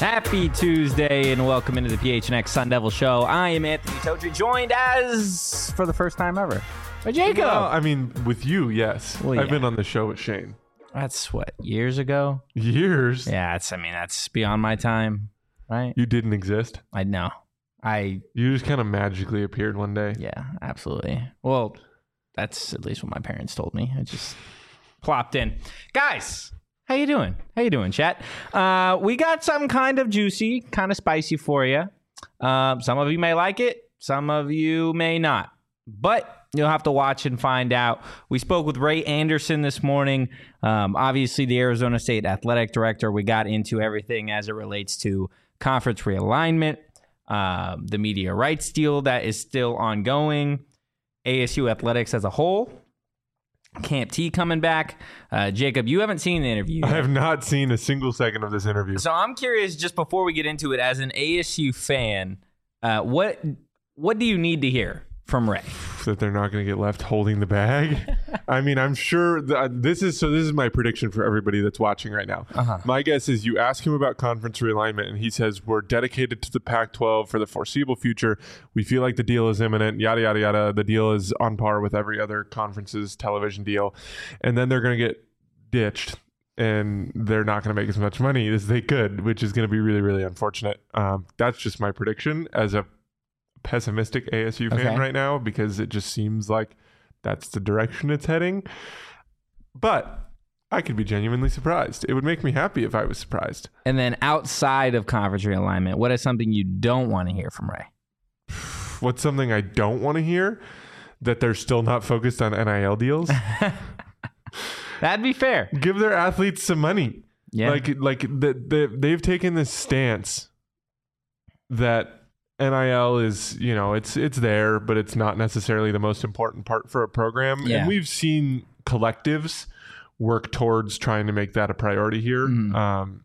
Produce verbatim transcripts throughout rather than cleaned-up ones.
Happy Tuesday and welcome into the P H N X Sun Devil Show. I am Anthony Totri, joined as, for the first time ever, by Jacob. Well, I mean, with you, yes. Well, yeah. I've been on the show with Shane. That's what, years ago? Years? Yeah, it's, I mean, that's beyond my time, right? You didn't exist? I know. I. You just kind of magically appeared one day. Yeah, absolutely. Well, that's at least what my parents told me. I just plopped in. Guys, how you doing? How you doing, chat? Uh, we got something kind of juicy, kind of spicy for you. Um, some of you may like it. Some of you may not. But you'll have to watch and find out. We spoke with Ray Anderson this morning. Um, obviously, the Arizona State athletic director. We got into everything as it relates to conference realignment, uh, the media rights deal that is still ongoing, A S U athletics as a whole, Camp T coming back. Uh, Jacob, you haven't seen the interview yet. I have not seen a single second of this interview. So I'm curious, just before we get into it, as an A S U fan, uh, what what do you need to hear from Ray? That they're not going to get left holding the bag. I mean, I'm sure that this is so. This is my prediction for everybody that's watching right now. Uh-huh. My guess is you ask him about conference realignment, and he says we're dedicated to the Pac twelve for the foreseeable future. We feel like the deal is imminent. Yada yada yada. The deal is on par with every other conference's television deal, and then they're going to get ditched, and they're not going to make as much money as they could, which is going to be really really unfortunate. Um, that's just my prediction as a pessimistic A S U fan Okay. right now, because it just seems like that's the direction it's heading. But I could be genuinely surprised. It would make me happy if I was surprised. And then outside of conference realignment, what is something you don't want to hear from Ray? What's something I don't want to hear? That they're still not focused on N I L deals. That'd be fair. Give their athletes some money. Yeah. Like like the, the, they've taken this stance that N I L is, you know, it's it's there, but it's not necessarily the most important part for a program. Yeah. And we've seen collectives work towards trying to make that a priority here. Mhm. Um,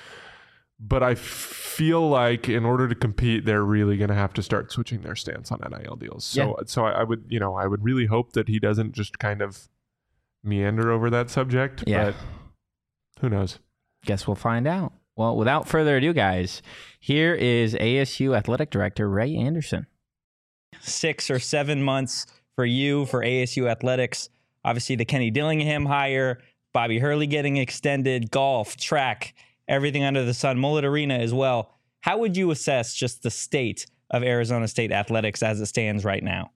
but I feel like in order to compete, they're really going to have to start switching their stance on N I L deals. So, so I, I would, you know, I would really hope that he doesn't just kind of meander over that subject. Yeah. But who knows? Guess we'll find out. Well, without further ado, guys, here is A S U Athletic Director Ray Anderson. Six or seven months for you, for A S U Athletics. Obviously, the Kenny Dillingham hire, Bobby Hurley getting extended, golf, track, everything under the sun, Mullet Arena as well. How would you assess just the state of Arizona State athletics as it stands right now?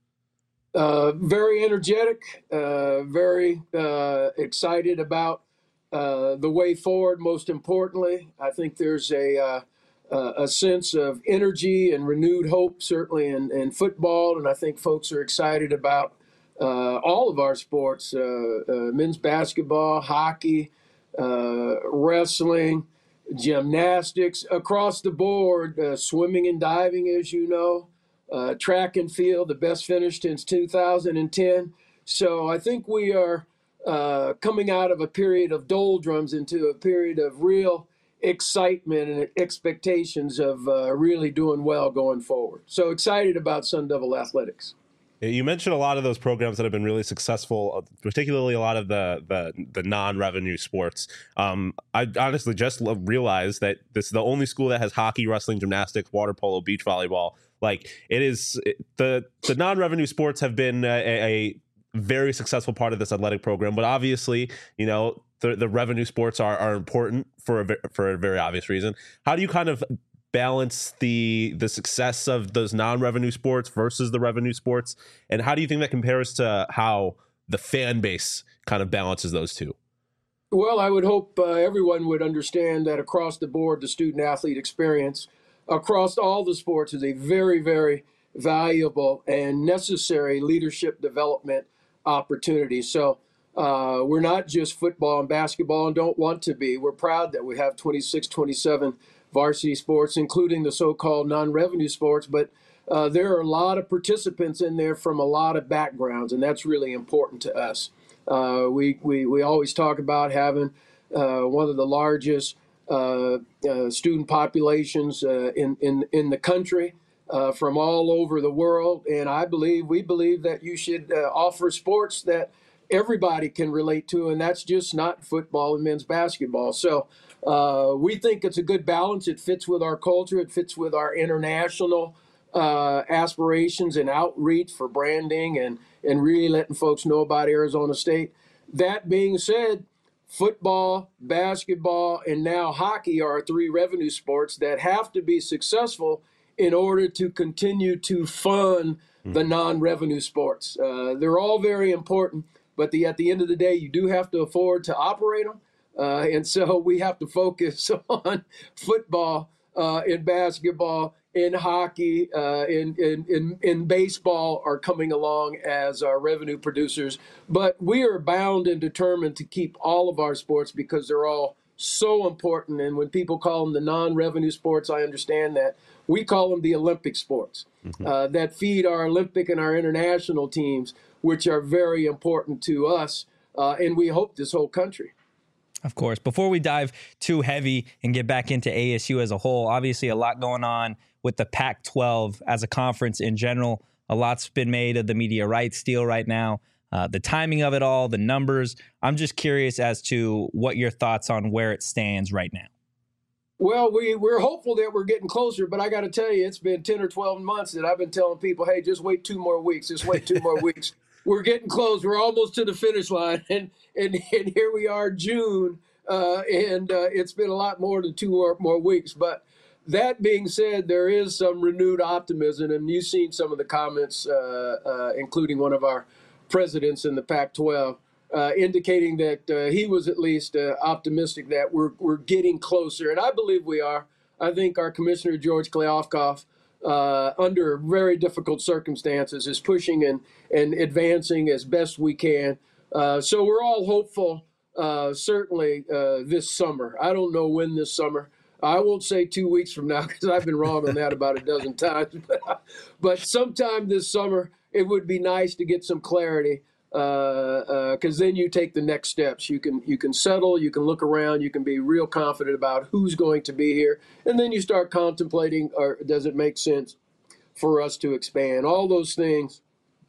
Uh, very energetic, uh, very uh, excited about Uh, the way forward. Most importantly, I think there's a uh, a sense of energy and renewed hope, certainly in, in football, and I think folks are excited about uh, all of our sports: uh, uh, men's basketball, hockey, uh, wrestling, gymnastics, across the board, uh, swimming and diving, as you know, uh, track and field, the best finish since two thousand ten. So I think we are Uh, coming out of a period of doldrums into a period of real excitement and expectations of uh, really doing well going forward. So excited about Sun Devil Athletics. You mentioned a lot of those programs that have been really successful, particularly a lot of the the, the non-revenue sports. Um, I honestly just realized that this is the only school that has hockey, wrestling, gymnastics, water polo, beach volleyball. Like it is the the non-revenue sports have been a, a very successful part of this athletic program, but obviously, you know, the, the revenue sports are, are important for a, for a very obvious reason. How do you kind of balance the the success of those non-revenue sports versus the revenue sports, and how do you think that compares to how the fan base kind of balances those two? Well, I would hope uh, everyone would understand that across the board, the student athlete experience across all the sports is a very, very valuable and necessary leadership development opportunity. So uh, we're not just football and basketball and don't want to be. We're proud that we have twenty-six, twenty-seven varsity sports, including the so-called non-revenue sports. But uh, there are a lot of participants in there from a lot of backgrounds, and that's really important to us. Uh, we, we, we always talk about having uh, one of the largest uh, uh, student populations uh, in, in, in the country. Uh, from all over the world, and I believe we believe that you should uh, offer sports that everybody can relate to, and that's just not football and men's basketball. So uh, we think it's a good balance. It fits with our culture. It fits with our international uh, aspirations and outreach for branding and, and really letting folks know about Arizona State. That being said, football, basketball, and now hockey are three revenue sports that have to be successful in order to continue to fund the non-revenue sports. Uh, they're all very important, but the, at the end of the day, you do have to afford to operate them. Uh, and so we have to focus on football, uh, and basketball, and hockey, uh, and, and, and, and baseball are coming along as our revenue producers. But we are bound and determined to keep all of our sports because they're all so important. And when people call them the non-revenue sports, I understand that. We call them the Olympic sports mm-hmm. uh, that feed our Olympic and our international teams, which are very important to us, uh, and we hope this whole country. Of course. Before we dive too heavy and get back into A S U as a whole, obviously a lot going on with the Pac twelve as a conference in general. A lot's been made of the media rights deal right now, uh, the timing of it all, the numbers. I'm just curious as to what your thoughts on where it stands right now. Well, we, we're hopeful that we're getting closer, but I got to tell you, it's been ten or twelve months that I've been telling people, hey, just wait two more weeks, just wait two more weeks. We're getting close. We're almost to the finish line, and and, and here we are, June, uh, and uh, it's been a lot more than two or more weeks. But that being said, there is some renewed optimism, and you've seen some of the comments, uh, uh, including one of our presidents in the Pac twelve, uh, indicating that uh, he was at least uh, optimistic that we're we're getting closer, and I believe we are. I think our commissioner, George Kliavkoff, Uh, under very difficult circumstances, is pushing and, and advancing as best we can. Uh, so we're all hopeful, uh, certainly uh, this summer. I don't know when this summer. I won't say two weeks from now because I've been wrong on that about a dozen times. But, but sometime this summer, it would be nice to get some clarity because uh, uh, then you take the next steps. You can you can settle, you can look around, you can be real confident about who's going to be here, and then you start contemplating, or does it make sense for us to expand? All those things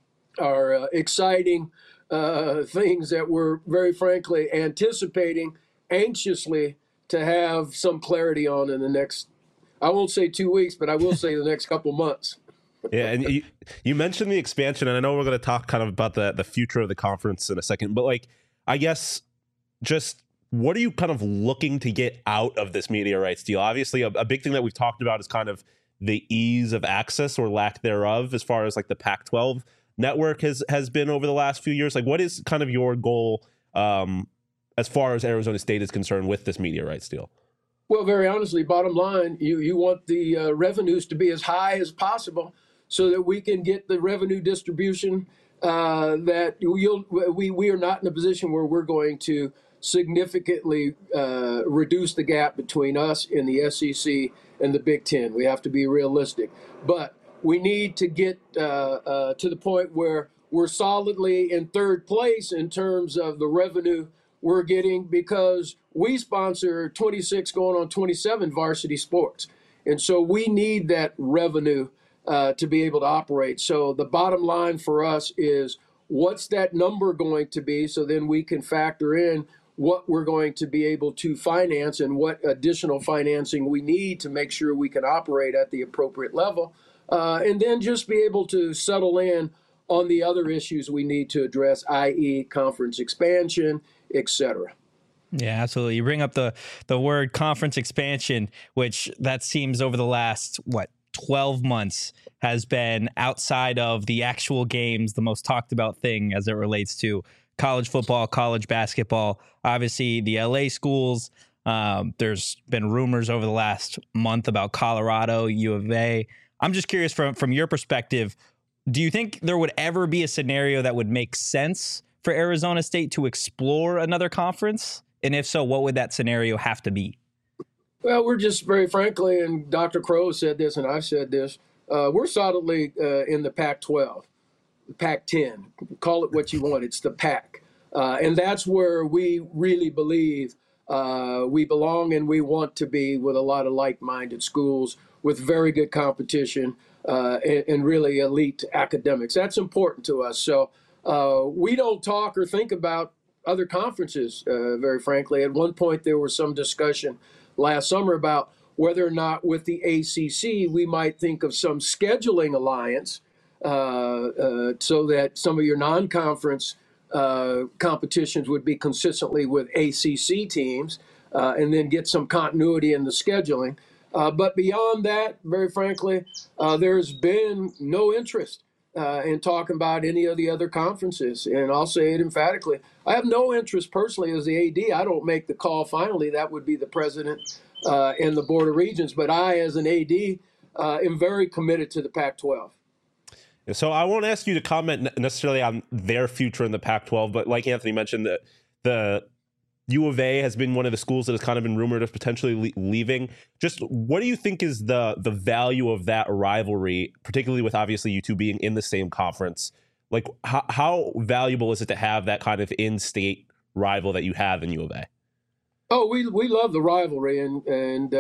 are uh, exciting uh, things that we're very frankly anticipating anxiously to have some clarity on in the next, I won't say two weeks, but I will say the next couple months. Yeah, and you, you mentioned the expansion, and I know we're going to talk kind of about the, the future of the conference in a second, but like, I guess just what are you kind of looking to get out of this media rights deal? Obviously, a, a big thing that we've talked about is kind of the ease of access or lack thereof as far as like the Pac twelve network has, has been over the last few years. Like, what is kind of your goal um, as far as Arizona State is concerned with this media rights deal? Well, very honestly, bottom line, you, you want the uh, revenues to be as high as possible, so that we can get the revenue distribution uh, that you'll, we, we are not in a position where we're going to significantly uh, reduce the gap between us and the S E C and the Big Ten. We have to be realistic. But we need to get uh, uh, to the point where we're solidly in third place in terms of the revenue we're getting, because we sponsor twenty-six going on twenty-seven varsity sports. And so we need that revenue Uh, to be able to operate. So the bottom line for us is, what's that number going to be, so then we can factor in what we're going to be able to finance and what additional financing we need to make sure we can operate at the appropriate level, uh, and then just be able to settle in on the other issues we need to address, that is conference expansion, et cetera. Yeah, absolutely. You bring up the the word conference expansion, which that seems over the last, what, twelve months has been, outside of the actual games, the most talked about thing as it relates to college football, college basketball. Obviously, the L A schools. Um, there's been rumors over the last month about Colorado, U of A. I'm just curious from, from your perspective, do you think there would ever be a scenario that would make sense for Arizona State to explore another conference? And if so, what would that scenario have to be? Well, we're just very frankly, and Doctor Crow said this, and I've said this, uh, we're solidly uh, in the Pac twelve, Pac ten, call it what you want. It's the Pac. Uh, and that's where we really believe uh, we belong and we want to be, with a lot of like-minded schools with very good competition uh, and, and really elite academics. That's important to us. So uh, we don't talk or think about other conferences, uh, very frankly. At one point, there was some discussion last summer about whether or not with the A C C we might think of some scheduling alliance uh, uh, so that some of your non-conference uh, competitions would be consistently with A C C teams uh, and then get some continuity in the scheduling. Uh, but beyond that, very frankly, uh, there's been no interest uh, in talking about any of the other conferences. And I'll say it emphatically. I have no interest personally as the A D. I don't make the call finally. That would be the president uh, and the Board of Regents. But I, as an A D, uh, am very committed to the Pac twelve. So I won't ask you to comment necessarily on their future in the Pac twelve, but like Anthony mentioned, the, the U of A has been one of the schools that has kind of been rumored of potentially le- leaving. Just what do you think is the the value of that rivalry, particularly with obviously you two being in the same conference? Like, how, how valuable is it to have that kind of in-state rival that you have in U of A? Oh, we we love the rivalry and and uh,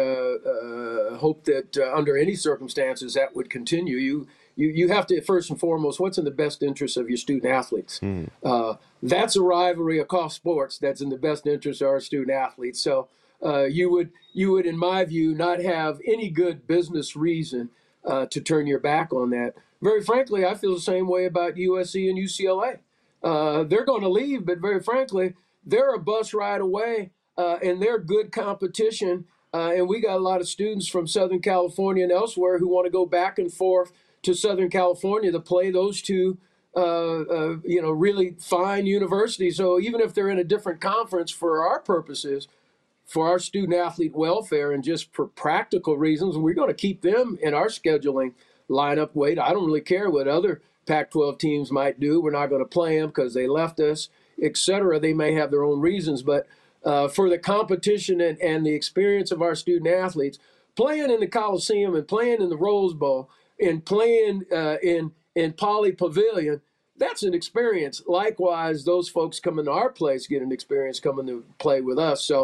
uh, hope that uh, under any circumstances that would continue. You you you have to first and foremost, what's in the best interest of your student athletes? Mm. Uh, that's a rivalry across sports that's in the best interest of our student athletes. So uh, you would you would, in my view, not have any good business reason uh, to turn your back on that. Very frankly, I feel the same way about U S C and U C L A. Uh, they're going to leave, but very frankly, they're a bus ride away. Uh, and they're good competition. Uh, and we got a lot of students from Southern California and elsewhere who want to go back and forth to Southern California to play those two, uh, uh, you know, really fine universities. So even if they're in a different conference, for our purposes, for our student athlete welfare and just for practical reasons, we're going to keep them in our scheduling lineup. Wait, I don't really care what other Pac twelve teams might do. We're not going to play them because they left us, et cetera. They may have their own reasons, but Uh, for the competition and, and the experience of our student athletes, playing in the Coliseum and playing in the Rose Bowl and playing uh, in in Poly Pavilion, that's an experience. Likewise, those folks coming to our place get an experience coming to play with us. So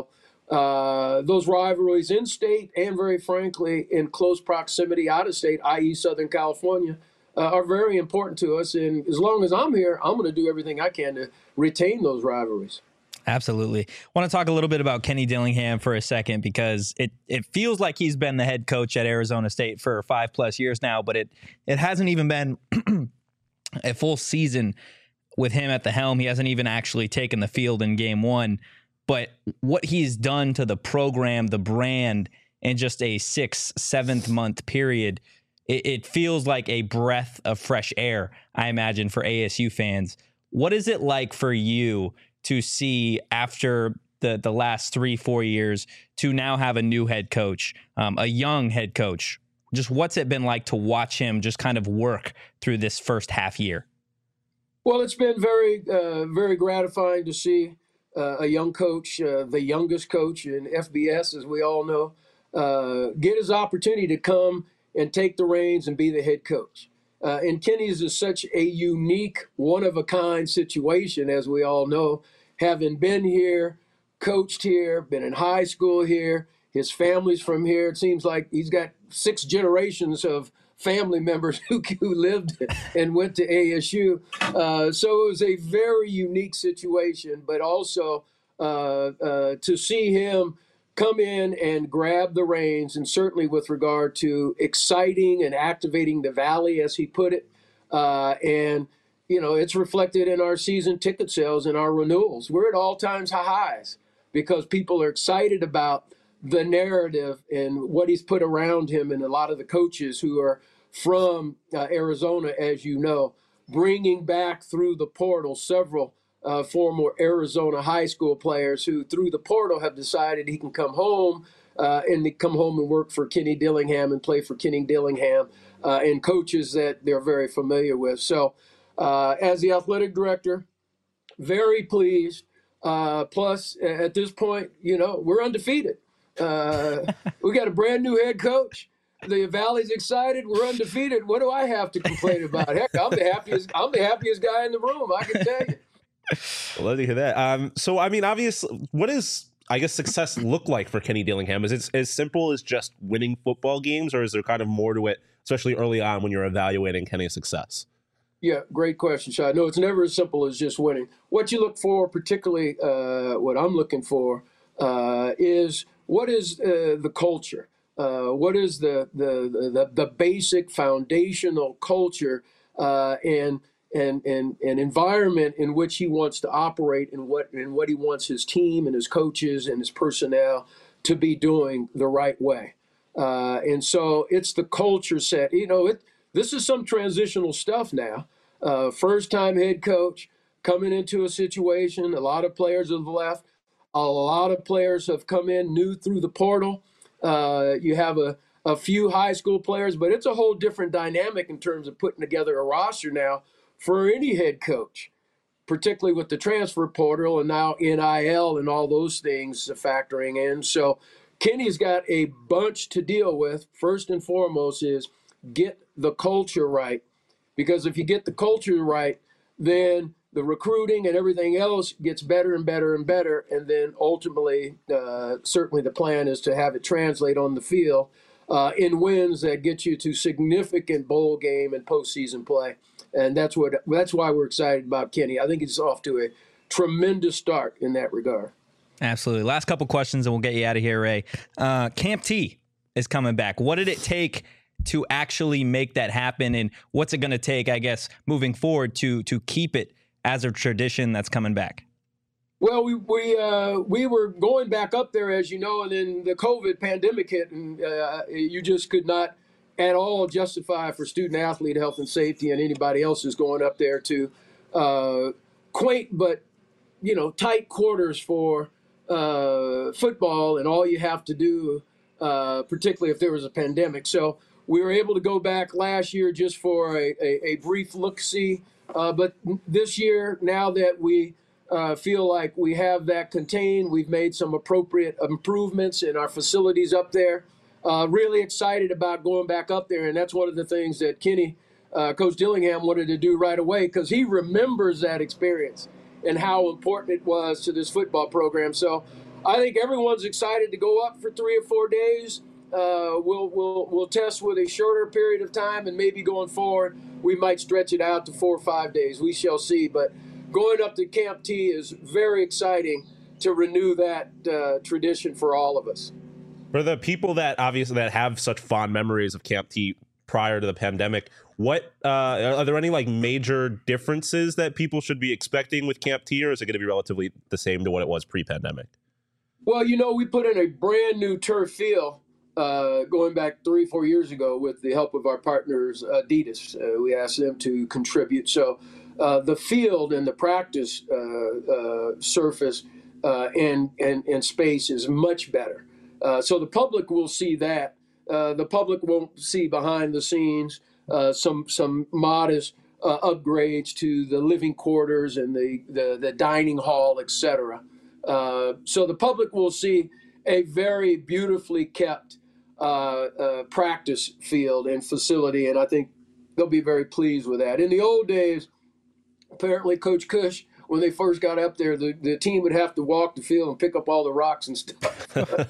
uh, those rivalries in state and, very frankly, in close proximity out of state, that is. Southern California, uh, are very important to us. And as long as I'm here, I'm going to do everything I can to retain those rivalries. Absolutely. I want to talk a little bit about Kenny Dillingham for a second, because it, it feels like he's been the head coach at Arizona State for five plus years now, but it, it hasn't even been a full season with him at the helm. He hasn't even actually taken the field in game one, but what he's done to the program, the brand, in just a six, seventh month period, it, it feels like a breath of fresh air, I imagine, for A S U fans. What is it like for you to see after the, the last three, four years to now have a new head coach, um, a young head coach? Just what's it been like to watch him just kind of work through this first half year? Well, it's been very, uh, very gratifying to see uh, a young coach, uh, the youngest coach in F B S, as we all know, uh, get his opportunity to come and take the reins and be the head coach. Uh, and Kenny's is such a unique, one-of-a-kind situation, as we all know, having been here, coached here, been in high school here, his family's from here. It seems like he's got six generations of family members who, who lived and went to A S U. Uh, so it was a very unique situation, but also uh, uh, to see him come in and grab the reins, and certainly with regard to exciting and activating the Valley, as he put it. Uh, and, you know, it's reflected in our season ticket sales and our renewals. We're at all-time highs because people are excited about the narrative and what he's put around him, and a lot of the coaches who are from uh, Arizona, as you know, bringing back through the portal several Uh, former Arizona high school players who, through the portal, have decided he can come home uh, and they come home and work for Kenny Dillingham and play for Kenny Dillingham uh, and coaches that they're very familiar with. So uh, as the athletic director, very pleased. Uh, plus, at this point, you know, we're undefeated. Uh, we got a brand new head coach. The Valley's excited. We're undefeated. What do I have to complain about? Heck, I'm the happiest. I'm the happiest guy in the room, I can tell you. Love to hear that. Um, so, I mean, obviously, what does, I guess, success look like for Kenny Dillingham? Is it as simple as just winning football games, or is there kind of more to it, especially early on when you're evaluating Kenny's success? Yeah, great question, Shai. No, it's never as simple as just winning. What you look for, particularly uh, what I'm looking for, uh, is what is uh, the culture? Uh, what is the, the the the basic foundational culture uh, and and and and environment in which he wants to operate, and what and what he wants his team and his coaches and his personnel to be doing the right way. Uh, and so it's the culture set. You know, it. This is some transitional stuff now. Uh, first time head coach coming into a situation. A lot of players have left. A lot of players have come in new through the portal. Uh, you have a, a few high school players, but it's a whole different dynamic in terms of putting together a roster now for any head coach, particularly with the transfer portal and now N I L and all those things factoring in. So Kenny's got a bunch to deal with. First and foremost is get the culture right, because if you get the culture right, then the recruiting and everything else gets better and better and better. And then ultimately, uh, certainly the plan is to have it translate on the field uh, in wins that get you to significant bowl game and postseason play. And that's what that's why we're excited about Kenny. I think he's off to a tremendous start in that regard. Absolutely. Last couple questions and we'll get you out of here, Ray. Uh, Camp T is coming back. What did it take to actually make that happen, and what's it going to take, I guess, moving forward to to keep it as a tradition that's coming back? Well, we we uh, we were going back up there, as you know, and then the COVID pandemic hit, and uh, you just could not at all justify for student athlete health and safety and anybody else who's going up there to uh, quaint but you know tight quarters for uh, football, and all you have to do, uh, particularly if there was a pandemic. So we were able to go back last year just for a, a, a brief look-see. Uh, but this year, now that we uh, feel like we have that contained, we've made some appropriate improvements in our facilities up there. Uh, really excited about going back up there. And that's one of the things that Kenny, uh, Coach Dillingham, wanted to do right away, because he remembers that experience and how important it was to this football program. So I think everyone's excited to go up for three or four days. Uh, we'll we'll we'll test with a shorter period of time, and maybe going forward we might stretch it out to four or five days. We shall see. But going up to Camp T is very exciting to renew that uh, tradition for all of us. For the people that obviously that have such fond memories of Camp T prior to the pandemic, what uh, are there any like major differences that people should be expecting with Camp T, or is it going to be relatively the same to what it was pre-pandemic? Well, you know, we put in a brand new turf field. Uh, going back three, four years ago with the help of our partners, Adidas. Uh, we asked them to contribute. So uh, the field and the practice uh, uh, surface uh, and, and, and space is much better. Uh, so the public will see that. Uh, the public won't see behind the scenes uh, some some modest uh, upgrades to the living quarters and the, the, the dining hall, et cetera. Uh, so the public will see a very beautifully kept Uh, uh, practice field and facility, and I think they'll be very pleased with that. In the old days, apparently Coach Cush, when they first got up there, the, the team would have to walk the field and pick up all the rocks and stuff.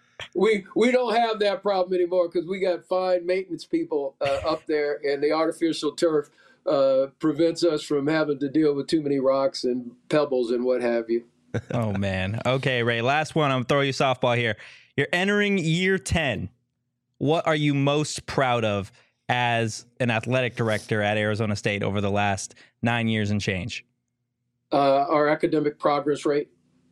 we we don't have that problem anymore, because we got fine maintenance people uh, up there, and the artificial turf uh, prevents us from having to deal with too many rocks and pebbles and what have you. Oh, man. Okay, Ray, last one. I'm going to throw you a softball here. You're entering year ten. What are you most proud of as an athletic director at Arizona State over the last nine years and change? Uh, our academic progress rate.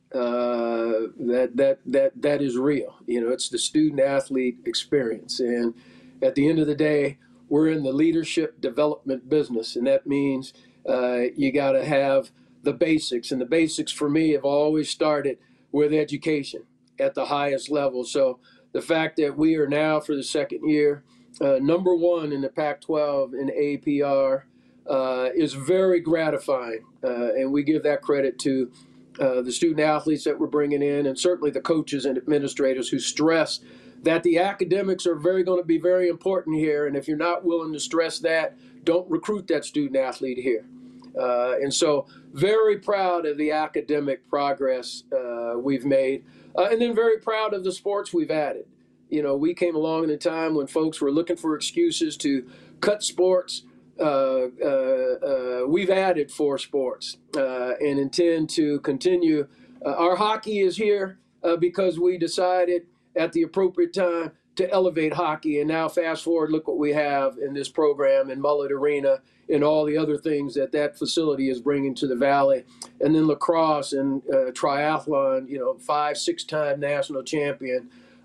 Uh, that that that that is real. You know, it's the student athlete experience, and at the end of the day, we're in the leadership development business, and that means uh, you got to have the basics, and the basics for me have always started with education at the highest level. So the fact that we are now, for the second year, uh, number one in the Pac twelve in A P R uh, is very gratifying, uh, and we give that credit to uh, the student athletes that we're bringing in, and certainly the coaches and administrators who stress that the academics are very going to be very important here, and if you're not willing to stress that, don't recruit that student athlete here. Uh, and so very proud of the academic progress uh, we've made. Uh, and then very proud of the sports we've added. You know, we came along in a time when folks were looking for excuses to cut sports, uh, uh, we've added four sports uh, and intend to continue. Uh, our hockey is here uh, because we decided at the appropriate time to elevate hockey. And now fast forward, look what we have in this program in Mullet Arena and all the other things that that facility is bringing to the Valley. And then lacrosse and uh, triathlon, you know, five, six-time national champion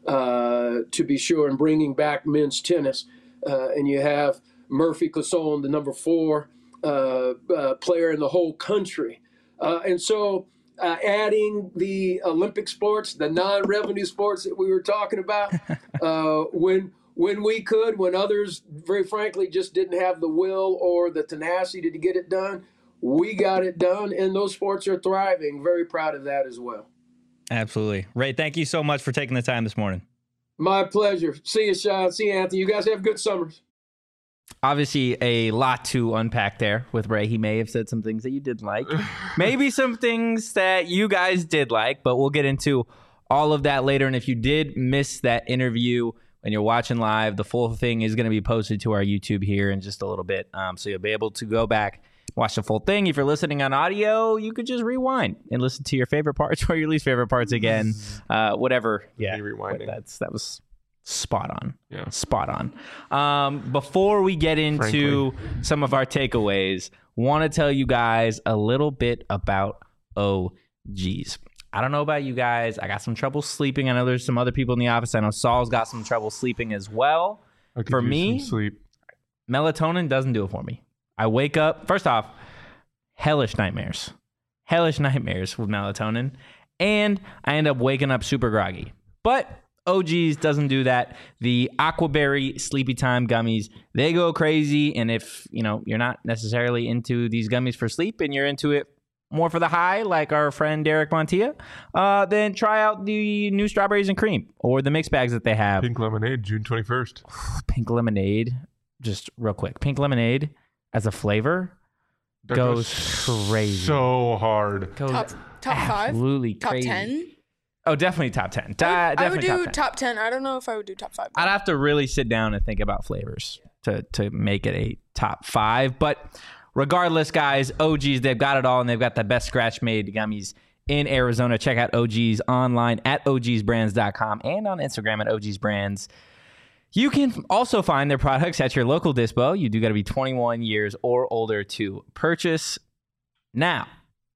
uh, to be sure, and bringing back men's tennis. Uh, and you have Murphy Casson, the number four uh, uh, player in the whole country. Uh, and so uh, adding the Olympic sports, the non-revenue sports that we were talking about, uh, when when we could, when others, very frankly, just didn't have the will or the tenacity to get it done, we got it done, and those sports are thriving. Very proud of that as well. Absolutely. Ray, thank you so much for taking the time this morning. My pleasure. See you, Sean. See you, Anthony. You guys have good summers. Obviously, a lot to unpack there with Ray. He may have said some things that you didn't like, maybe some things that you guys did like, but we'll get into all of that later. And if you did miss that interview when you're watching live, the full thing is going to be posted to our YouTube here in just a little bit. Um, so you'll be able to go back, watch the full thing. If you're listening on audio, you could just rewind and listen to your favorite parts or your least favorite parts again, uh, whatever. Yeah, rewinding. That's that was spot on. Yeah, spot on. Um, before we get into Frankly. some of our takeaways, want to tell you guys a little bit about O Gs. I don't know about you guys. I got some trouble sleeping. I know there's some other people in the office. I know Saul's got some trouble sleeping as well. I could For use me, some sleep. melatonin doesn't do it for me. I wake up, first off, hellish nightmares. Hellish nightmares with melatonin. And I end up waking up super groggy. But O Gs doesn't do that. The Aquaberry Sleepy Time gummies, they go crazy. And if, you know, you're not necessarily into these gummies for sleep and you're into it more for the high, like our friend Derek Montilla, uh, then try out the new strawberries and cream or the mixed bags that they have. Pink lemonade, June twenty-first. Pink lemonade, just real quick. Pink lemonade as a flavor That goes, goes crazy. So hard. Goes Top top five, absolutely top crazy. ten. Oh, definitely top ten. I would, Da- I would definitely do top ten. top ten. I don't know if I would do top five. I'd have to really sit down and think about flavors to to make it a top five. But regardless, guys, O Gs, they've got it all, and they've got the best scratch-made gummies in Arizona. Check out O Gs online at O Gs brands dot com and on Instagram at O Gs brands. You can also find their products at your local dispo. You do got to be twenty-one years or older to purchase. Now,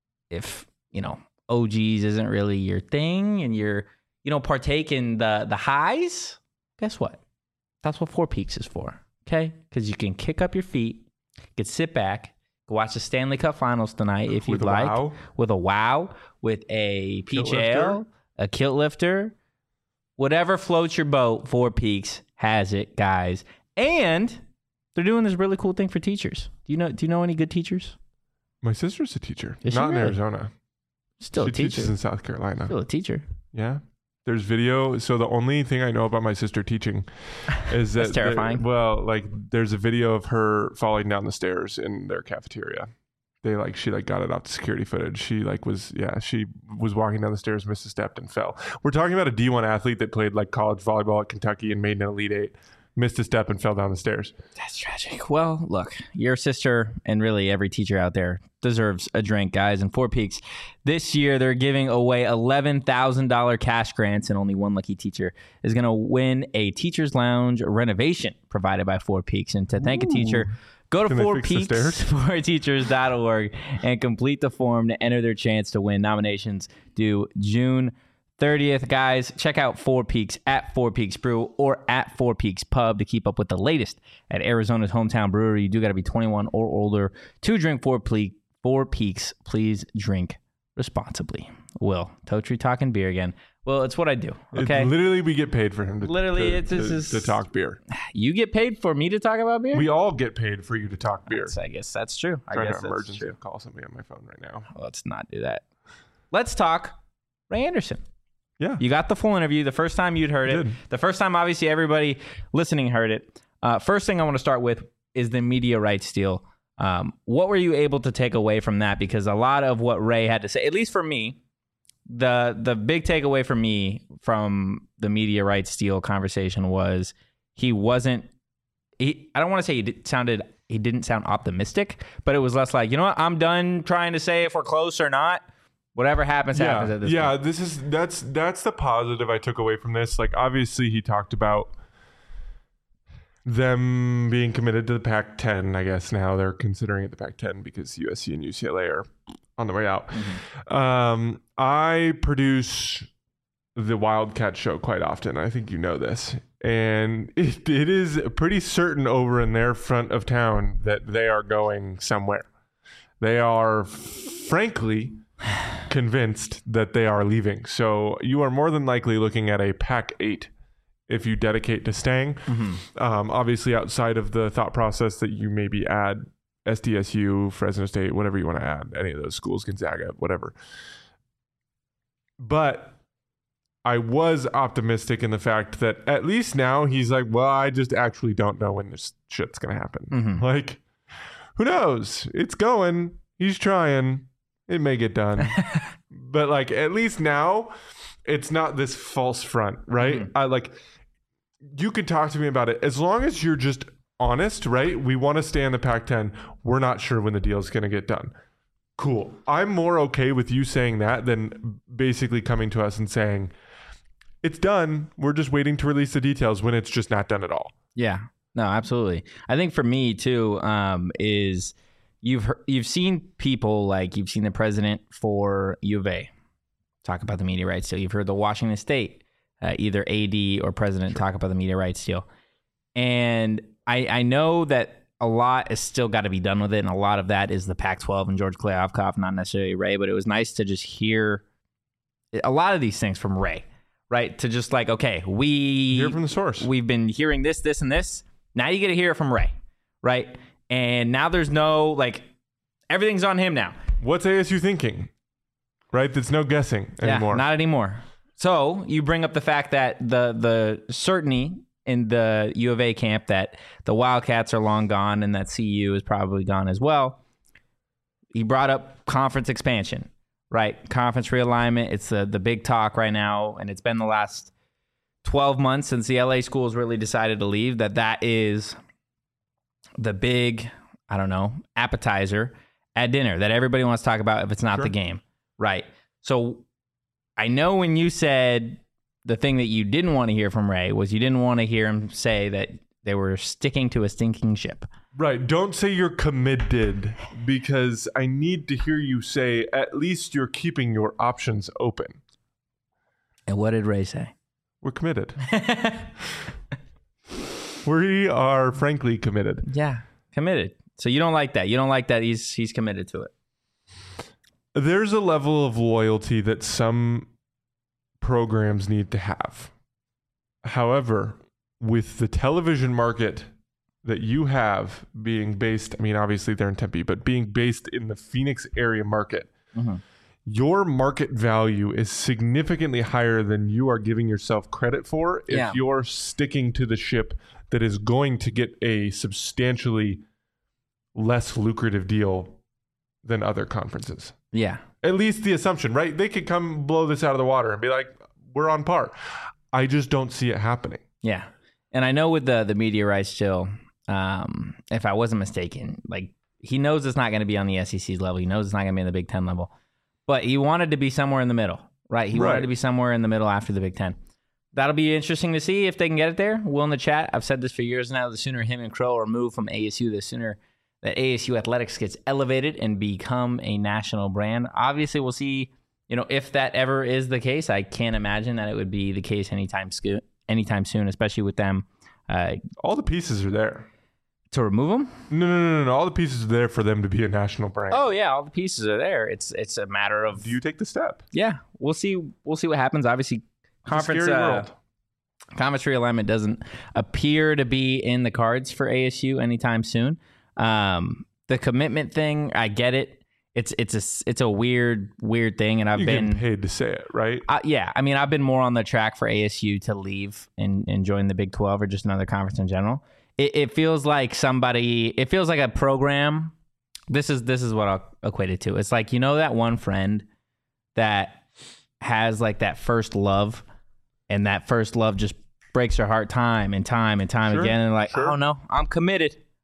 if, you know, O Gs isn't really your thing and you're, you know, partake in the, the highs, guess what? That's what Four Peaks is for, okay? Because you can kick up your feet, you can sit back, go watch the Stanley Cup Finals tonight if you'd With a like. wow. With a wow, with a peach Kilt ale, lifter. a kilt lifter, whatever floats your boat, Four Peaks has it, guys. And they're doing this really cool thing for teachers. Do you know? Do you know any good teachers? My sister's a teacher. Is she Not in really? Arizona. Still she a teacher. teaches in South Carolina. Still a teacher. Yeah. There's video. So the only thing I know about my sister teaching is that That's terrifying. there- well, like there's a video of her falling down the stairs in their cafeteria. They like she like got it off the security footage. She like was yeah she was walking down the stairs, missed a step, and fell. We're talking about a D one athlete that played like college volleyball at Kentucky and made an Elite Eight, missed a step and fell down the stairs. That's tragic. Well, look, your sister and really every teacher out there deserves a drink, guys. And Four Peaks, this year they're giving away eleven thousand dollars cash grants, and only one lucky teacher is going to win a Teacher's Lounge renovation provided by Four Peaks. And to thank a teacher, go to Can they four fix the peaks stairs? for teachers dot org and complete the form to enter their chance to win. Nominations due June thirtieth. Guys, check out Four Peaks at Four Peaks Brew or at Four Peaks Pub to keep up with the latest at Arizona's hometown brewery. You do got to be twenty-one or older to drink Four, Ple- Four Peaks. Please drink responsibly. Will, Totri talking beer again. Well, it's what I do, okay? It, literally, we get paid for him to Literally, to, it's- it's to, just- to talk beer. You get paid for me to talk about beer? We all get paid for you to talk beer. I guess that's true. I trying guess to that's emergency true. call somebody on my phone right now. Let's not do that. Let's talk Ray Anderson. Yeah. You got the full interview the first time you'd heard I it. did. The first time, obviously, everybody listening heard it. Uh, first thing I want to start with is the media rights deal. Um, what were you able to take away from that? Because a lot of what Ray had to say, at least for me, the the big takeaway for me from the media rights deal conversation was he wasn't. He, I don't want to say he did, sounded he didn't sound optimistic, but it was less like, you know what, I'm done trying to say if we're close or not. Whatever happens, yeah, happens at this yeah. point. This is that's that's the positive I took away from this. Like, obviously, he talked about them being committed to the Pac ten. I guess now they're considering it the Pac ten because U S C and U C L A are on the way out. Mm-hmm. Um, I produce the Wildcat Show quite often. I think you know this. And it, it is pretty certain over in their front of town that they are going somewhere. They are, frankly, convinced that they are leaving. So you are more than likely looking at a Pac eight if you dedicate to staying. Mm-hmm. Um, obviously, outside of the thought process that you maybe add S D S U, Fresno State, whatever you want to add, any of those schools, Gonzaga, whatever. But I was optimistic in the fact that at least now he's like, well, I just actually don't know when this shit's going to happen. Mm-hmm. Like, who knows? It's going. He's trying. It may get done. But like, at least now it's not this false front, right? Mm-hmm. I like, you could talk to me about it. As long as you're just honest, right? We want to stay in the Pac ten. We're not sure when the deal is going to get done. Cool. I'm more okay with you saying that than basically coming to us and saying, it's done. We're just waiting to release the details when it's just not done at all. Yeah, no, absolutely. I think for me too, um, is you've heard, you've seen people like you've seen the president for U of A talk about the media rights deal. You've heard the Washington State, uh, either A D or president, sure. talk about the media rights deal. And I, I know that a lot has still got to be done with it, and a lot of that is the Pac twelve and George Kliavkoff, not necessarily Ray. But it was nice to just hear a lot of these things from Ray. Right, to just like, okay, we hear from the source. We've been hearing this, this, and this. Now you get to hear it from Ray, right? And now there's no like, everything's on him now. What's A S U thinking? Right, there's no guessing anymore. Yeah, not anymore. So you bring up the fact that the the certainty in the U of A camp that the Wildcats are long gone and that C U is probably gone as well. He brought up conference expansion. Right, conference realignment. It's the the big talk right now, and it's been the last twelve months since the L A schools really decided to leave. That that is the big, I don't know, appetizer at dinner that everybody wants to talk about if it's not sure. the game. Right. So I know when you said the thing that you didn't want to hear from Ray was you didn't want to hear him say that they were sticking to a stinking ship. Right. Don't say you're committed, because I need to hear you say at least you're keeping your options open. And what did Ray say? We're committed. We are frankly committed. Yeah, committed. So you don't like that. You don't like that he's he's committed to it. There's a level of loyalty that some programs need to have. However, with the television market that you have being based, I mean, obviously they're in Tempe, but being based in the Phoenix area market, mm-hmm. your market value is significantly higher than you are giving yourself credit for if yeah. you're sticking to the ship that is going to get a substantially less lucrative deal than other conferences. Yeah. At least the assumption, right? They could come blow this out of the water and be like, we're on par. I just don't see it happening. Yeah. And I know with the the media rights deal, um, if I wasn't mistaken, like he knows it's not going to be on the S E C's level. He knows it's not going to be on the Big Ten level. But he wanted to be somewhere in the middle, right? He right. wanted to be somewhere in the middle after the Big Ten. That'll be interesting to see if they can get it there. Will in the chat, I've said this for years now, the sooner him and Crow are moved from A S U, the sooner that A S U athletics gets elevated and become a national brand. Obviously, we'll see, you know, if that ever is the case. I can't imagine that it would be the case anytime, sco- anytime soon, especially with them. Uh, all the pieces are there. To remove them? No, no, no, no, no. All the pieces are there for them to be a national brand. Oh yeah, all the pieces are there. It's it's a matter of, do you take the step? Yeah, we'll see. We'll see what happens. Obviously, conference scary uh, world. conference realignment doesn't appear to be in the cards for A S U anytime soon. Um, the commitment thing, I get it. It's it's a it's a weird weird thing, and I've You're been getting paid to say it, right? Uh, yeah, I mean, I've been more on the track for A S U to leave and, and join the Big twelve or just another conference in general. It, it feels like somebody. It feels like a program. This is this is what I'll equate it to. It's like, you know, that one friend that has like that first love, and that first love just breaks your heart time and time and time Sure, again, and like, sure. oh no, I'm committed.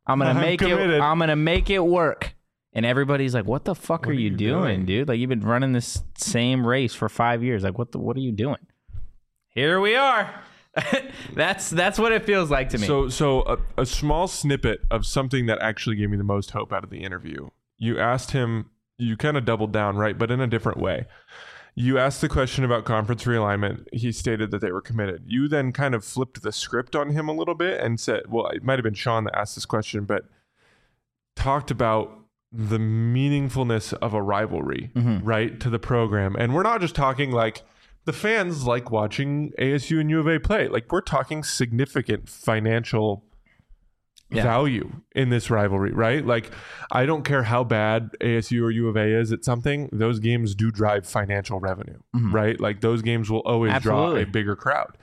I'm gonna I'm make committed. it. I'm gonna make it work. And everybody's like, "What the fuck What are, are you you doing, doing? dude? Like you've been running this same race for five years. Like what the? What are you doing?" Here we are. that's that's what it feels like to me. So, so a, a small snippet of something that actually gave me the most hope out of the interview. You asked him, you kind of doubled down, right? But in a different way. You asked the question about conference realignment. He stated that they were committed. You then kind of flipped the script on him a little bit and said, well, it might have been Sean that asked this question, but talked about the meaningfulness of a rivalry, Mm-hmm. right, to the program. And we're not just talking like, the fans like watching A S U and U of A play. Like we're talking significant financial Yeah. value in this rivalry, right? Like I don't care how bad A S U or U of A is at something, those games do drive financial revenue, Mhm. right? Like those games will always Absolutely. draw a bigger crowd.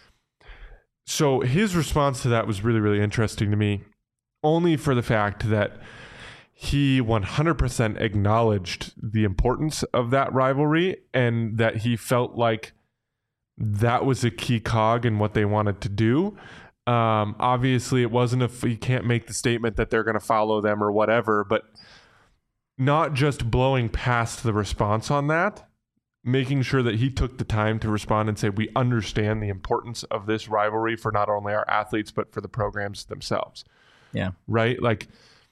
So his response to that was really, really interesting to me, only for the fact that he one hundred percent acknowledged the importance of that rivalry and that he felt like that was a key cog in what they wanted to do. Um, obviously, it wasn't a, you can't make the statement that they're going to follow them or whatever, but not just blowing past the response on that, making sure that he took the time to respond and say, we understand the importance of this rivalry for not only our athletes, but for the programs themselves. Yeah. Right? Like,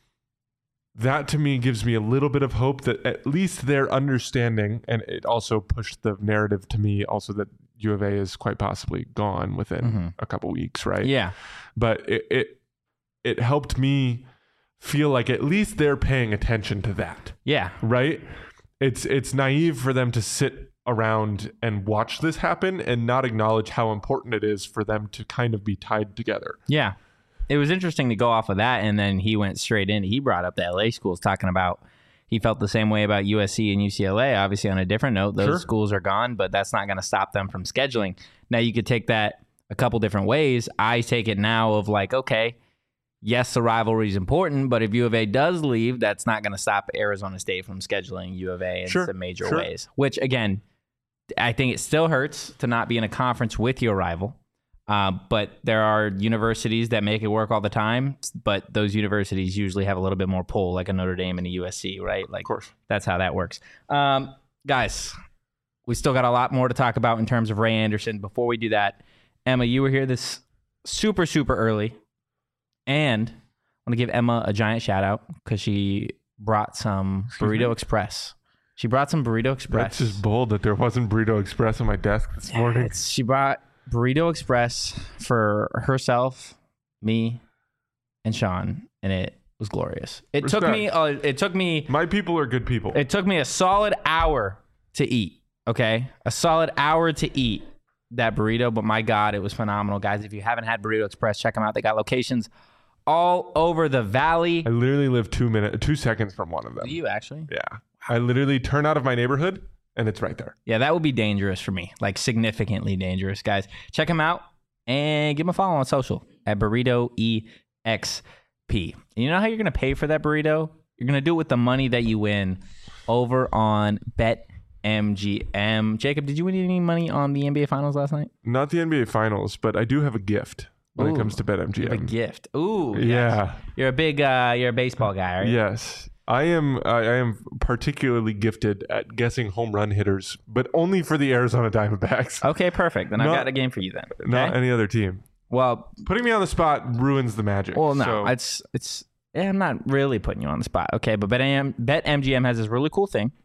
that to me gives me a little bit of hope that at least they're understanding, and it also pushed the narrative to me also that U of A is quite possibly gone within Mhm. a couple weeks, right? Yeah. But it, it it helped me feel like at least they're paying attention to that, Yeah. right? It's it's naive for them to sit around and watch this happen and not acknowledge how important it is for them to kind of be tied together. Yeah. It was interesting to go off of that, and then he went straight in. He brought up the L A schools, talking about he felt the same way about U S C and U C L A. Obviously, on a different note, those Sure. schools are gone, but that's not going to stop them from scheduling. Now, you could take that a couple different ways. I take it now of like, okay, yes, the rivalry is important, but if U of A does leave, that's not going to stop Arizona State from scheduling U of A in Sure. some major Sure. ways, which, again, I think it still hurts to not be in a conference with your rival. Uh, but there are universities that make it work all the time, but those universities usually have a little bit more pull, like a Notre Dame and a U S C, right? Like, Of course. that's how that works. Um, guys, we still got a lot more to talk about in terms of Ray Anderson. Before we do that, Emma, you were here this super, super early. And I want to give Emma a giant shout out because she brought some Burrito Express. She brought some Burrito Express. That's just bold that there wasn't Burrito Express on my desk this morning. It's, she brought Burrito Express for herself, me, and Sean, and it was glorious. It took Respect. me. Uh, it took me. My people are good people. It took me a solid hour to eat. Okay, a solid hour to eat that burrito. But my God, it was phenomenal, guys. If you haven't had Burrito Express, check them out. They got locations all over the valley. I literally live two minutes, two seconds from one of them. Do you actually? Yeah. I literally turn out of my neighborhood and it's right there. Yeah, that would be dangerous for me, like significantly dangerous, guys. Check them out and give them a follow on social at Burrito E X P. And you know how you're going to pay for that burrito? You're going to do it with the money that you win over on BetMGM. Jacob, did you win any money on the N B A Finals last night? Not the N B A Finals, but I do have a gift when Ooh, it comes to BetMGM. You have a gift. Ooh, yes. Yeah. You're a big, uh, you're a baseball guy, right? Yes. I am I I am particularly gifted at guessing home run hitters, but only for the Arizona Diamondbacks. Okay, perfect. Then I've Not- got a game for you then. Not Okay? any other team. Well, Putting me on the spot ruins the magic. Well, no, So, it's it's. Yeah, I'm not really putting you on the spot, okay? But BetM, BetMGM has this really cool thing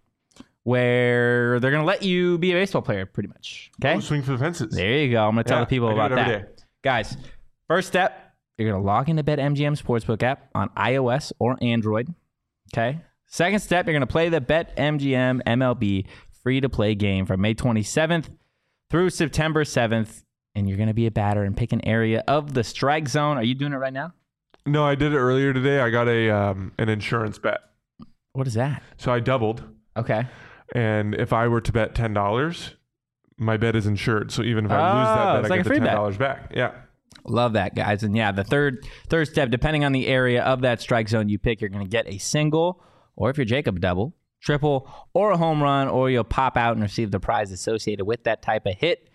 where they're gonna let you be a baseball player, pretty much. Okay, oh, swing for the fences. there you go. I'm gonna tell Yeah, the people I do about it every that, day. guys. First step, you're gonna log into BetMGM Sportsbook app on iOS or Android. Okay. Second step, you're gonna play the BetMGM M L B free-to-play game from May twenty-seventh through September seventh. And you're going to be a batter and pick an area of the strike zone. Are you doing it right now? No, I did it earlier today. I got a um, an insurance bet. What is that? So I doubled. Okay. And if I were to bet ten dollars, my bet is insured. So even if I lose Oh, that bet, it's I like get a the free ten bet. dollars back. Yeah. Love that, guys. And yeah, the third third step, depending on the area of that strike zone you pick, you're going to get a single, or if you're Jacob, double, triple, or a home run, or you'll pop out and receive the prize associated with that type of hit.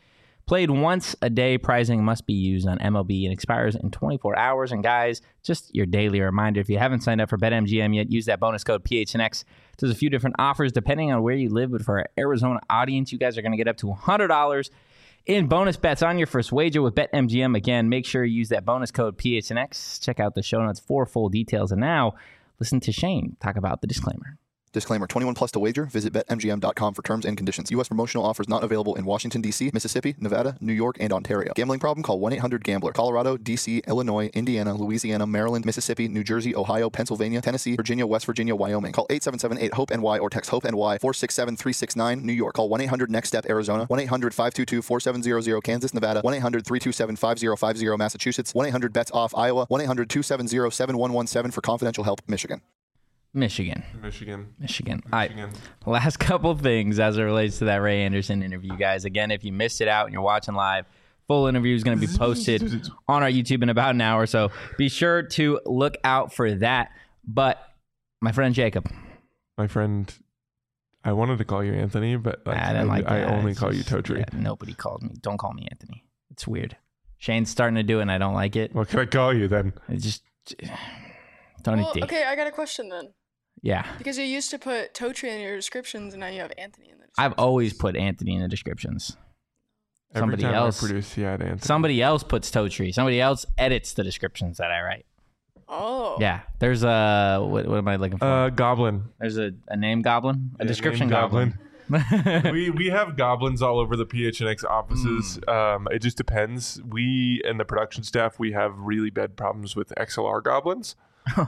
Played once a day, prizing must be used on M L B and expires in twenty-four hours. And guys, just your daily reminder, if you haven't signed up for BetMGM yet, use that bonus code P H N X. There's a few different offers depending on where you live, but for our Arizona audience, you guys are going to get up to one hundred dollars in bonus bets on your first wager with BetMGM. Again, make sure you use that bonus code P H N X. Check out the show notes for full details. And now, listen to Shane talk about the disclaimer. Disclaimer, twenty-one plus to wager. Visit Bet M G M dot com for terms and conditions. U S promotional offers not available in Washington, D C, Mississippi, Nevada, New York, and Ontario. Gambling problem? Call one eight hundred gambler. Colorado, D C, Illinois, Indiana, Louisiana, Maryland, Mississippi, New Jersey, Ohio, Pennsylvania, Tennessee, Virginia, West Virginia, Wyoming. Call eight seven seven eight hope N Y or text HOPE-NY four six seven three six nine. New York. Call one eight hundred next step Arizona. one eight hundred five two two four seven zero zero. Kansas, Nevada. one eight hundred three two seven five zero five zero. Massachusetts. one eight hundred bets off Iowa. one eight hundred two seven zero seven one one seven for confidential help. Michigan. Michigan. Michigan. Michigan. Michigan. All right. Last couple things as it relates to that Ray Anderson interview, guys. Again, if you missed it out and you're watching live, full interview is going to be posted on our YouTube in about an hour. So be sure to look out for that. But my friend Jacob. My friend, I wanted to call you Anthony, but like, I, I, didn't like I that. only It's call just- you Totri. yeah, nobody called me. Don't call me Anthony. It's weird. Shane's starting to do it and I don't like it. What can I call you then? It just don't Well, need okay, I got a question then. Yeah. Because you used to put Totri in your descriptions, and now you have Anthony in the I've descriptions. always put Anthony in the descriptions. Somebody Every time else I produce, yeah, Anthony. Somebody else puts Totri. Somebody else edits the descriptions that I write. Oh. Yeah. There's a what, what am I looking for? Uh, Goblin. There's a, a name goblin, a Yeah, description name goblin. we we have goblins all over the P H N X offices. Mm. Um, it just depends. We and the production staff, we have really bad problems with X L R goblins.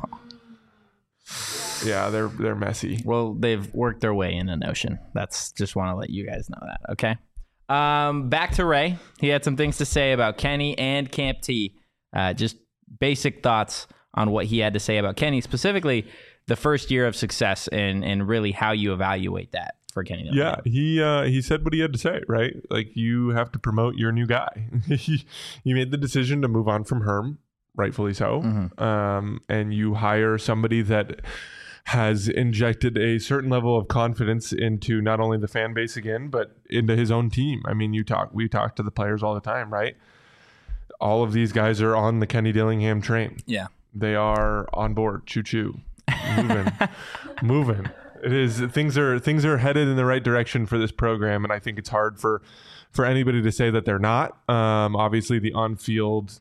Yeah, they're they're messy. Well, they've worked their way in a Notion. That's just want to let you guys know that. Okay. Um, back to Ray. He had some things to say about Kenny and Camp T. Uh, just basic thoughts on what he had to say about Kenny, specifically the first year of success and and really how you evaluate that for Kenny. Yeah, he uh, he said what he had to say, right? Like, you have to promote your new guy. he, he made the decision to move on from Herm, rightfully so, Mhm. um, and you hire somebody that has injected a certain level of confidence into not only the fan base again, but into his own team. I mean, you talk, we talk to the players all the time, right? All of these guys are on the Kenny Dillingham train. Yeah. They are on board. Choo choo, moving, moving. It is things are things are headed in the right direction for this program, and I think it's hard for for anybody to say that they're not. Um, obviously, the on-field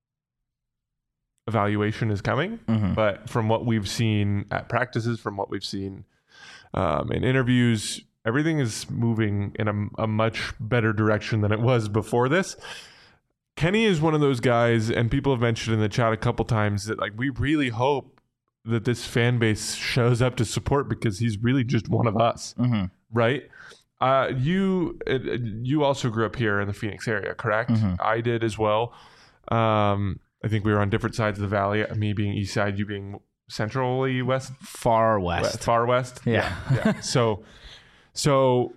evaluation is coming, Mhm. but from what we've seen at practices, from what we've seen um, in interviews, everything is moving in a, a much better direction than it was before this. Kenny is one of those guys, and people have mentioned in the chat a couple times that, like, we really hope that this fan base shows up to support, because he's really just one of us, Mhm. right? Uh, you uh, you also grew up here in the Phoenix area, correct? Mhm. I did as well. Um, I think we were on different sides of the valley. Me being east side, you being centrally west, Far west. west far west. Yeah. yeah. So, so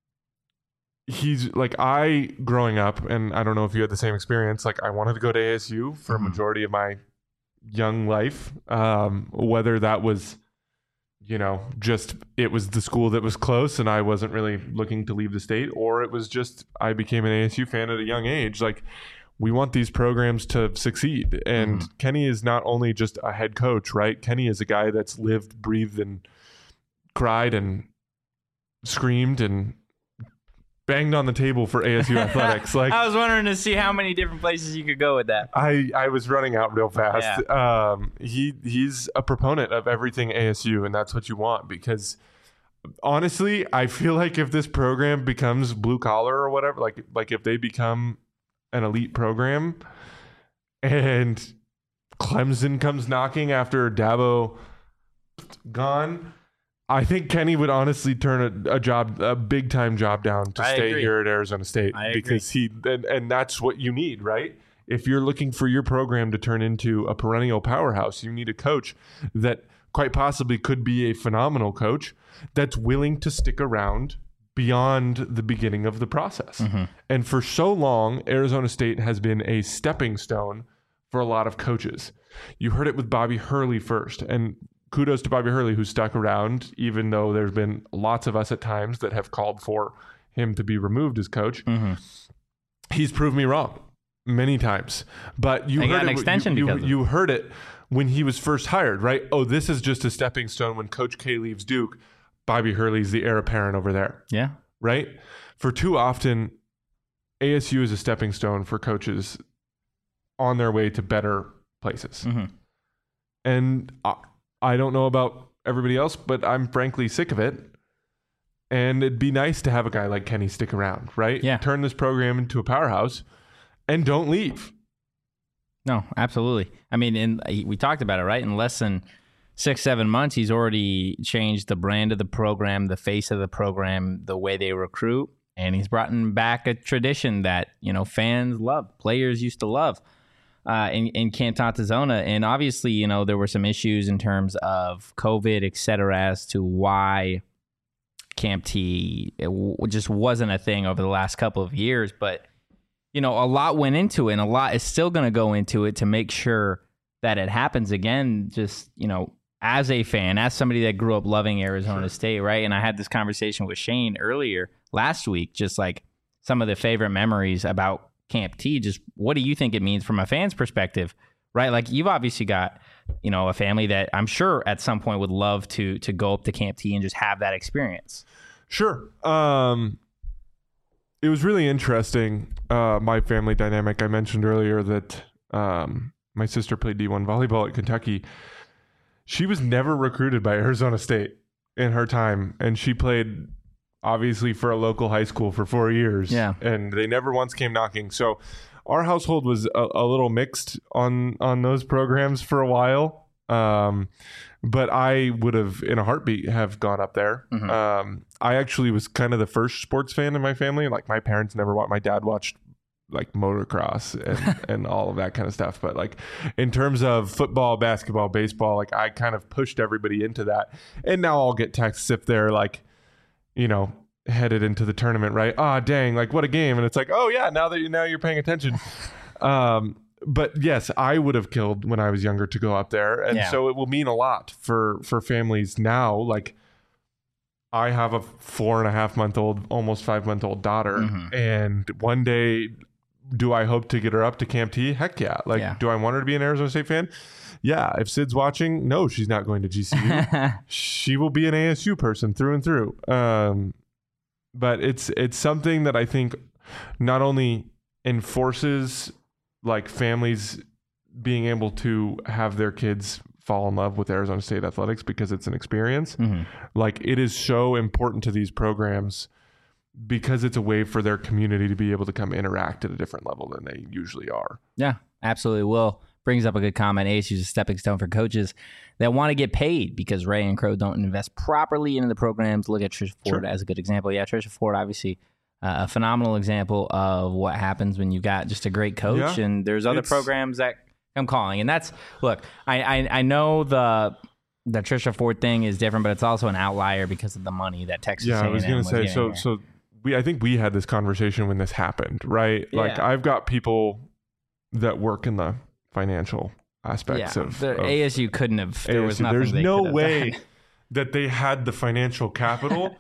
he's like, I growing up, and I don't know if you had the same experience. Like, I wanted to go to A S U for Mhm. a majority of my young life, um, whether that was, you know, just it was the school that was close and I wasn't really looking to leave the state, or it was just I became an A S U fan at a young age. Like, we want these programs to succeed. And Mhm. Kenny is not only just a head coach, right? Kenny is a guy that's lived, breathed, and cried and screamed and banged on the table for A S U athletics. Like, I was wondering to see how many different places you could go with that. I, I was running out real fast. Um, he he's a proponent of everything A S U, and that's what you want, because honestly, I feel like if this program becomes blue collar or whatever, like like if they become an elite program and Clemson comes knocking after Dabo gone, I think Kenny would honestly turn a, a job, a big time job down to I stay agree. here at Arizona State, I agree. because he and, and that's what you need, right? If you're looking for your program to turn into a perennial powerhouse, you need a coach that quite possibly could be a phenomenal coach that's willing to stick around beyond the beginning of the process. Mm-hmm. And for so long, Arizona State has been a stepping stone for a lot of coaches. You heard it with Bobby Hurley first, and kudos to Bobby Hurley, who stuck around, even though there's been lots of us at times that have called for him to be removed as coach. Mm-hmm. he's proved me wrong many times. But you They heard got an it, extension you, because you, of you heard it when he was first hired, right? Oh, this is just a stepping stone. When Coach K leaves Duke, Bobby Hurley's the heir apparent over there, Yeah. right? For too often, A S U is a stepping stone for coaches on their way to better places. Mm-hmm. And I, I don't know about everybody else, but I'm frankly sick of it. And it'd be nice to have a guy like Kenny stick around, right? Yeah. Turn this program into a powerhouse and don't leave. No, absolutely. I mean, in, we talked about it, right? In less than six, seven months, he's already changed the brand of the program, the face of the program, the way they recruit, and he's brought back a tradition that, you know, fans love, players used to love uh, in, in Camp Tontozona. And obviously, you know, there were some issues in terms of COVID, et cetera, as to why Camp T it w- just wasn't a thing over the last couple of years. But, you know, a lot went into it, and a lot is still going to go into it to make sure that it happens again. Just, you know, as a fan, as somebody that grew up loving Arizona sure. State, right? And I had this conversation with Shane earlier last week, just like some of the favorite memories about Camp T. Just what do you think it means from a fan's perspective, right? Like, you've obviously got, you know, a family that I'm sure at some point would love to to go up to Camp T and just have that experience. Sure. Um, it was really interesting, uh, my family dynamic. I mentioned earlier that um, my sister played D one volleyball at Kentucky. She was never recruited by Arizona State in her time, and she played obviously for a local high school for four years. Yeah. And they never once came knocking. So our household was a, a little mixed on on those programs for a while. Um, but I would have, in a heartbeat, have gone up there. Mm-hmm. Um, I actually was kind of the first sports fan in my family. Like, my parents never watched. My dad watched like motocross and, and all of that kind of stuff. But like, in terms of football, basketball, baseball, like, I kind of pushed everybody into that. And now I'll get texts if they're like, you know, headed into the tournament, right? Ah, oh, dang, like, what a game. And it's like, oh yeah, now that you now you're paying attention. um, but yes, I would have killed when I was younger to go up there. And Yeah. so it will mean a lot for, for families now. Like, I have a four and a half month old, almost five month old daughter. Mm-hmm. And And one day, do I hope to get her up to Camp T? Heck yeah. Like, Yeah. do I want her to be an Arizona State fan? Yeah. If Sid's watching, no, she's not going to G C U. She will be an A S U person through and through. Um, but it's it's something that I think not only enforces like families being able to have their kids fall in love with Arizona State athletics because it's an experience. Mm-hmm. Like, it is so important to these programs because it's a way for their community to be able to come interact at a different level than they usually are. Yeah, absolutely. Will brings up a good comment. A S U is a stepping stone for coaches that want to get paid because Ray and Crow don't invest properly into the programs. Look at Trisha Ford Sure. as a good example. Yeah, Trisha Ford, obviously uh, a phenomenal example of what happens when you've got just a great coach. Yeah. And there's other It's- programs that come calling. And that's, look, I, I, I know the the Trisha Ford thing is different, but it's also an outlier because of the money that Texas Yeah, I was A and M going to say, getting so here. so we I think we had this conversation when this happened, right? Like, Yeah. I've got people that work in the financial aspects yeah, of, the of A S U couldn't have. There was A S U. nothing There's they no could have way done. that they had the financial capital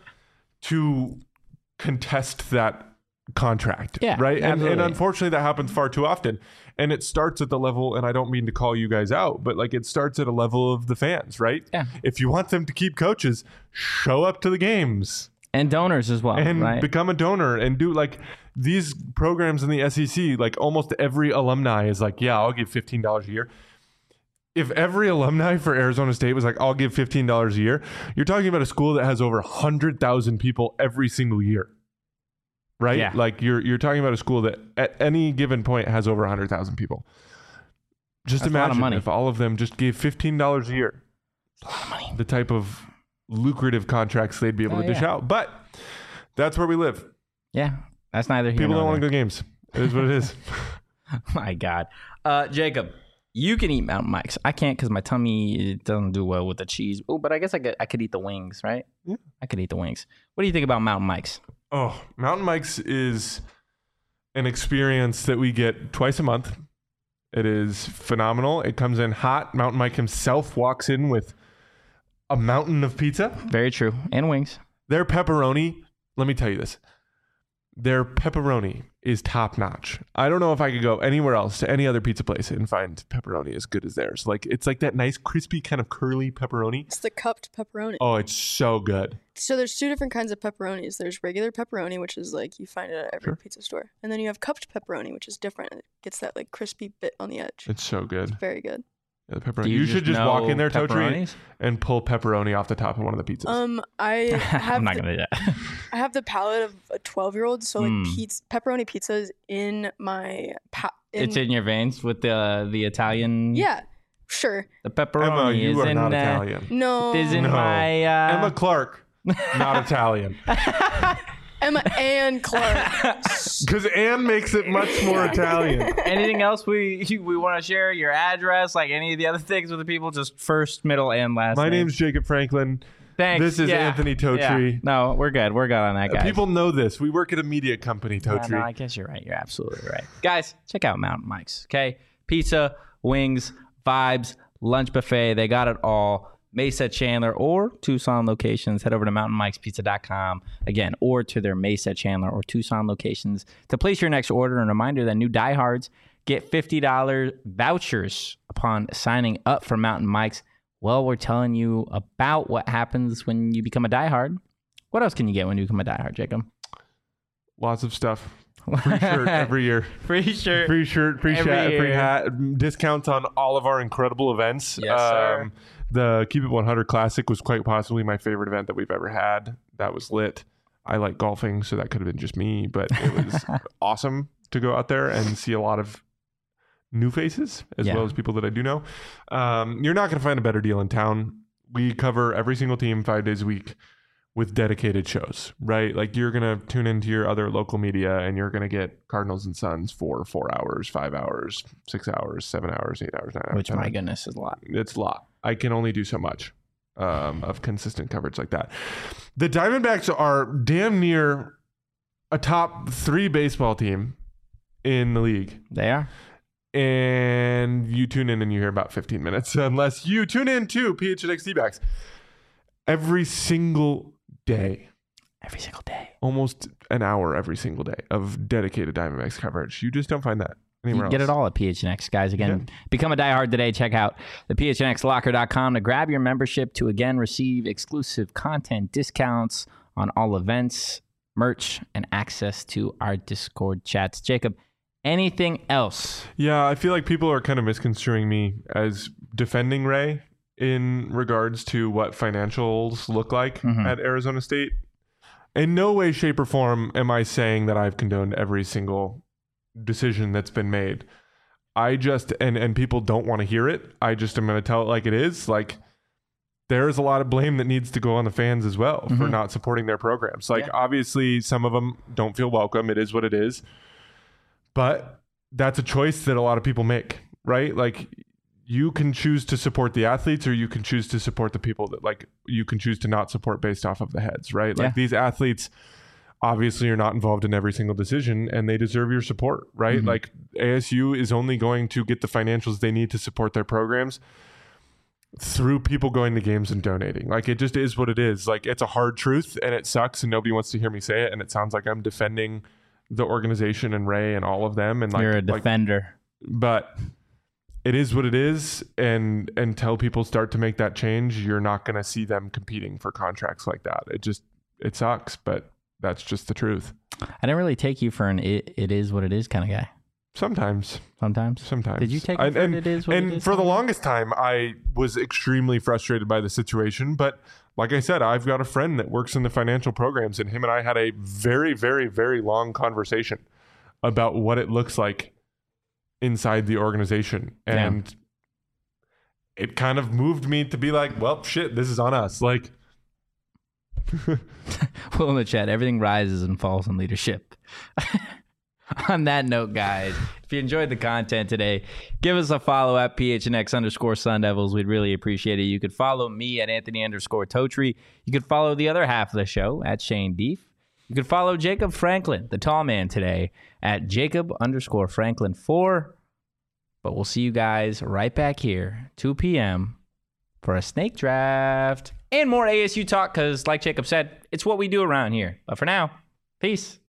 to contest that contract. Yeah, Right. And, and absolutely. unfortunately, that happens far too often. And it starts at the level, and I don't mean to call you guys out, but like, it starts at a level of the fans, right? Yeah. If you want them to keep coaches, show up to the games And donors as well, and right? become a donor and do like these programs in the S E C. Like, almost every alumni is like, yeah, I'll give fifteen dollars a year. If every alumni for Arizona State was like, I'll give fifteen dollars a year, you're talking about a school that has over one hundred thousand people every single year. Right? Yeah. Like, you're you're talking about a school that at any given point has over one hundred thousand people. Just That's a lot of imagine money. if all of them just gave fifteen dollars a year. a lot of money. The type of lucrative contracts they'd be able Oh, to dish yeah. out. But that's where we live. Yeah, that's neither here People nor don't want there. to go games. It is what it is. My God. Uh, Jacob, you can eat Mountain Mike's. I can't because my tummy it doesn't do well with the cheese. Oh, but I guess I could I could eat the wings, right? Yeah. I could eat the wings. What do you think about Mountain Mike's? Oh, Mountain Mike's is an experience that we get twice a month. It is phenomenal. It comes in hot. Mountain Mike himself walks in with a mountain of pizza. Very true. And wings. Their pepperoni, let me tell you this. their pepperoni is top notch. I don't know if I could go anywhere else to any other pizza place and find pepperoni as good as theirs. Like it's like that nice crispy kind of curly pepperoni. It's the cupped pepperoni. Oh, it's so good. So there's two different kinds of pepperonis. There's regular pepperoni, which is like you find it at every Sure. pizza store. And then you have cupped pepperoni, which is different. It gets that like crispy bit on the edge. It's so good. Very good. Yeah, the pepperoni. Do You, you should just just walk know in there, Totri, pepperonis? and pull pepperoni off the top of one of the pizzas. Um, I have I'm not the, gonna do that. I have the palate of a twelve year old, so like Mm. pizza, pepperoni pizza is in my pa- in, It's in your veins with the the Italian. yeah, sure. The pepperoni Emma, you is are in not uh, Italian. No, Is in No. my uh, Emma Clark, not Italian. Emma and Clark. Because Anne makes it much more Italian. Anything else we we want to share? Your address, like any of the other things with the people, just first, middle, and last. My name. name's Jacob Franklin. Thanks. This is Yeah. Anthony Yeah. Totri. No, we're good. We're good on that, guys. People know this. We work at a media company, Yeah, Totri. no, I guess you're right. You're absolutely right. Guys, check out Mountain Mike's, okay? Pizza, wings, vibes, lunch buffet. They got it all. Mesa, Chandler, or Tucson locations. Head over to mountain mikes pizza dot com, again, or to their Mesa, Chandler, or Tucson locations to place your next order. And a reminder that new diehards get fifty dollars vouchers upon signing up for Mountain Mike's. Well, we're telling you about what happens when you become a diehard. What else can you get when you become a diehard, Jacob? Lots of stuff. Free shirt every year. Free shirt. Free shirt, free Every hat, free year. hat. Discounts on all of our incredible events. Yes, sir. Um, the Keep It one hundred Classic was quite possibly my favorite event that we've ever had. That was lit. I like golfing, so that could have been just me, but it was awesome to go out there and see a lot of new faces as Yeah. well as people that I do know. Um, you're not going to find a better deal in town. We cover every single team five days a week with dedicated shows, right? Like you're going to tune into your other local media and you're going to get Cardinals and Suns for four hours, five hours, six hours, seven hours, eight hours, nine hours. Which, ten my hours. goodness, is a lot. It's a lot. I can only do so much um, of consistent coverage like that. The Diamondbacks are damn near a top three baseball team in the league. They are. And you tune in and you hear about fifteen minutes, unless you tune in to P H N X D-backs every single day. Every single day. Almost an hour every single day of dedicated Diamondbacks coverage. You just don't find that You anywhere can get else. it all at P H N X, guys. Again, become a diehard today. Check out the P H N X locker dot com to grab your membership to, again, receive exclusive content, discounts on all events, merch, and access to our Discord chats. Jacob, anything else? Yeah, I feel like people are kind of misconstruing me as defending Ray in regards to what financials look like Mhm. at Arizona State. In no way, shape, or form am I saying that I've condoned every single decision that's been made. I just, and, and people don't want to hear it. I just am going to tell it like it is. Like, there's a lot of blame that needs to go on the fans as well for Mhm. not supporting their programs. Like, Yeah. obviously, some of them don't feel welcome. It is what it is. But that's a choice that a lot of people make, right? Like, you can choose to support the athletes or you can choose to support the people that, like, you can choose to not support based off of the heads, right? Like, Yeah. these athletes obviously are not involved in every single decision and they deserve your support, right? Mhm. Like, A S U is only going to get the financials they need to support their programs through people going to games and donating. Like, it just is what it is. Like, it's a hard truth and it sucks and nobody wants to hear me say it. And it sounds like I'm defending the organization and Ray and all of them. And like, You're a like, defender. but it is what it is. And until people start to make that change, you're not going to see them competing for contracts like that. It just, it sucks, but that's just the truth. I didn't really take you for an it, it is what it is kind of guy. Sometimes, Sometimes. sometimes. Did you take it and, for and, it is what and it is for the kind of guy? longest time, I was extremely frustrated by the situation. But like I said, I've got a friend that works in the financial programs, and him and I had a very, very, very long conversation about what it looks like inside the organization. Yeah. And it kind of moved me to be like, well, shit, this is on us. Like, Will in the chat, everything rises and falls in leadership. On that note, guys, if you enjoyed the content today, give us a follow at P H N X underscore Sun Devils. We'd really appreciate it. You could follow me at Anthony underscore Totri. You could follow the other half of the show at Shane Deef. You could follow Jacob Franklin, the tall man, today at Jacob underscore Franklin four. But we'll see you guys right back here, two p.m. for a snake draft and more A S U talk because, like Jacob said, it's what we do around here. But for now, peace.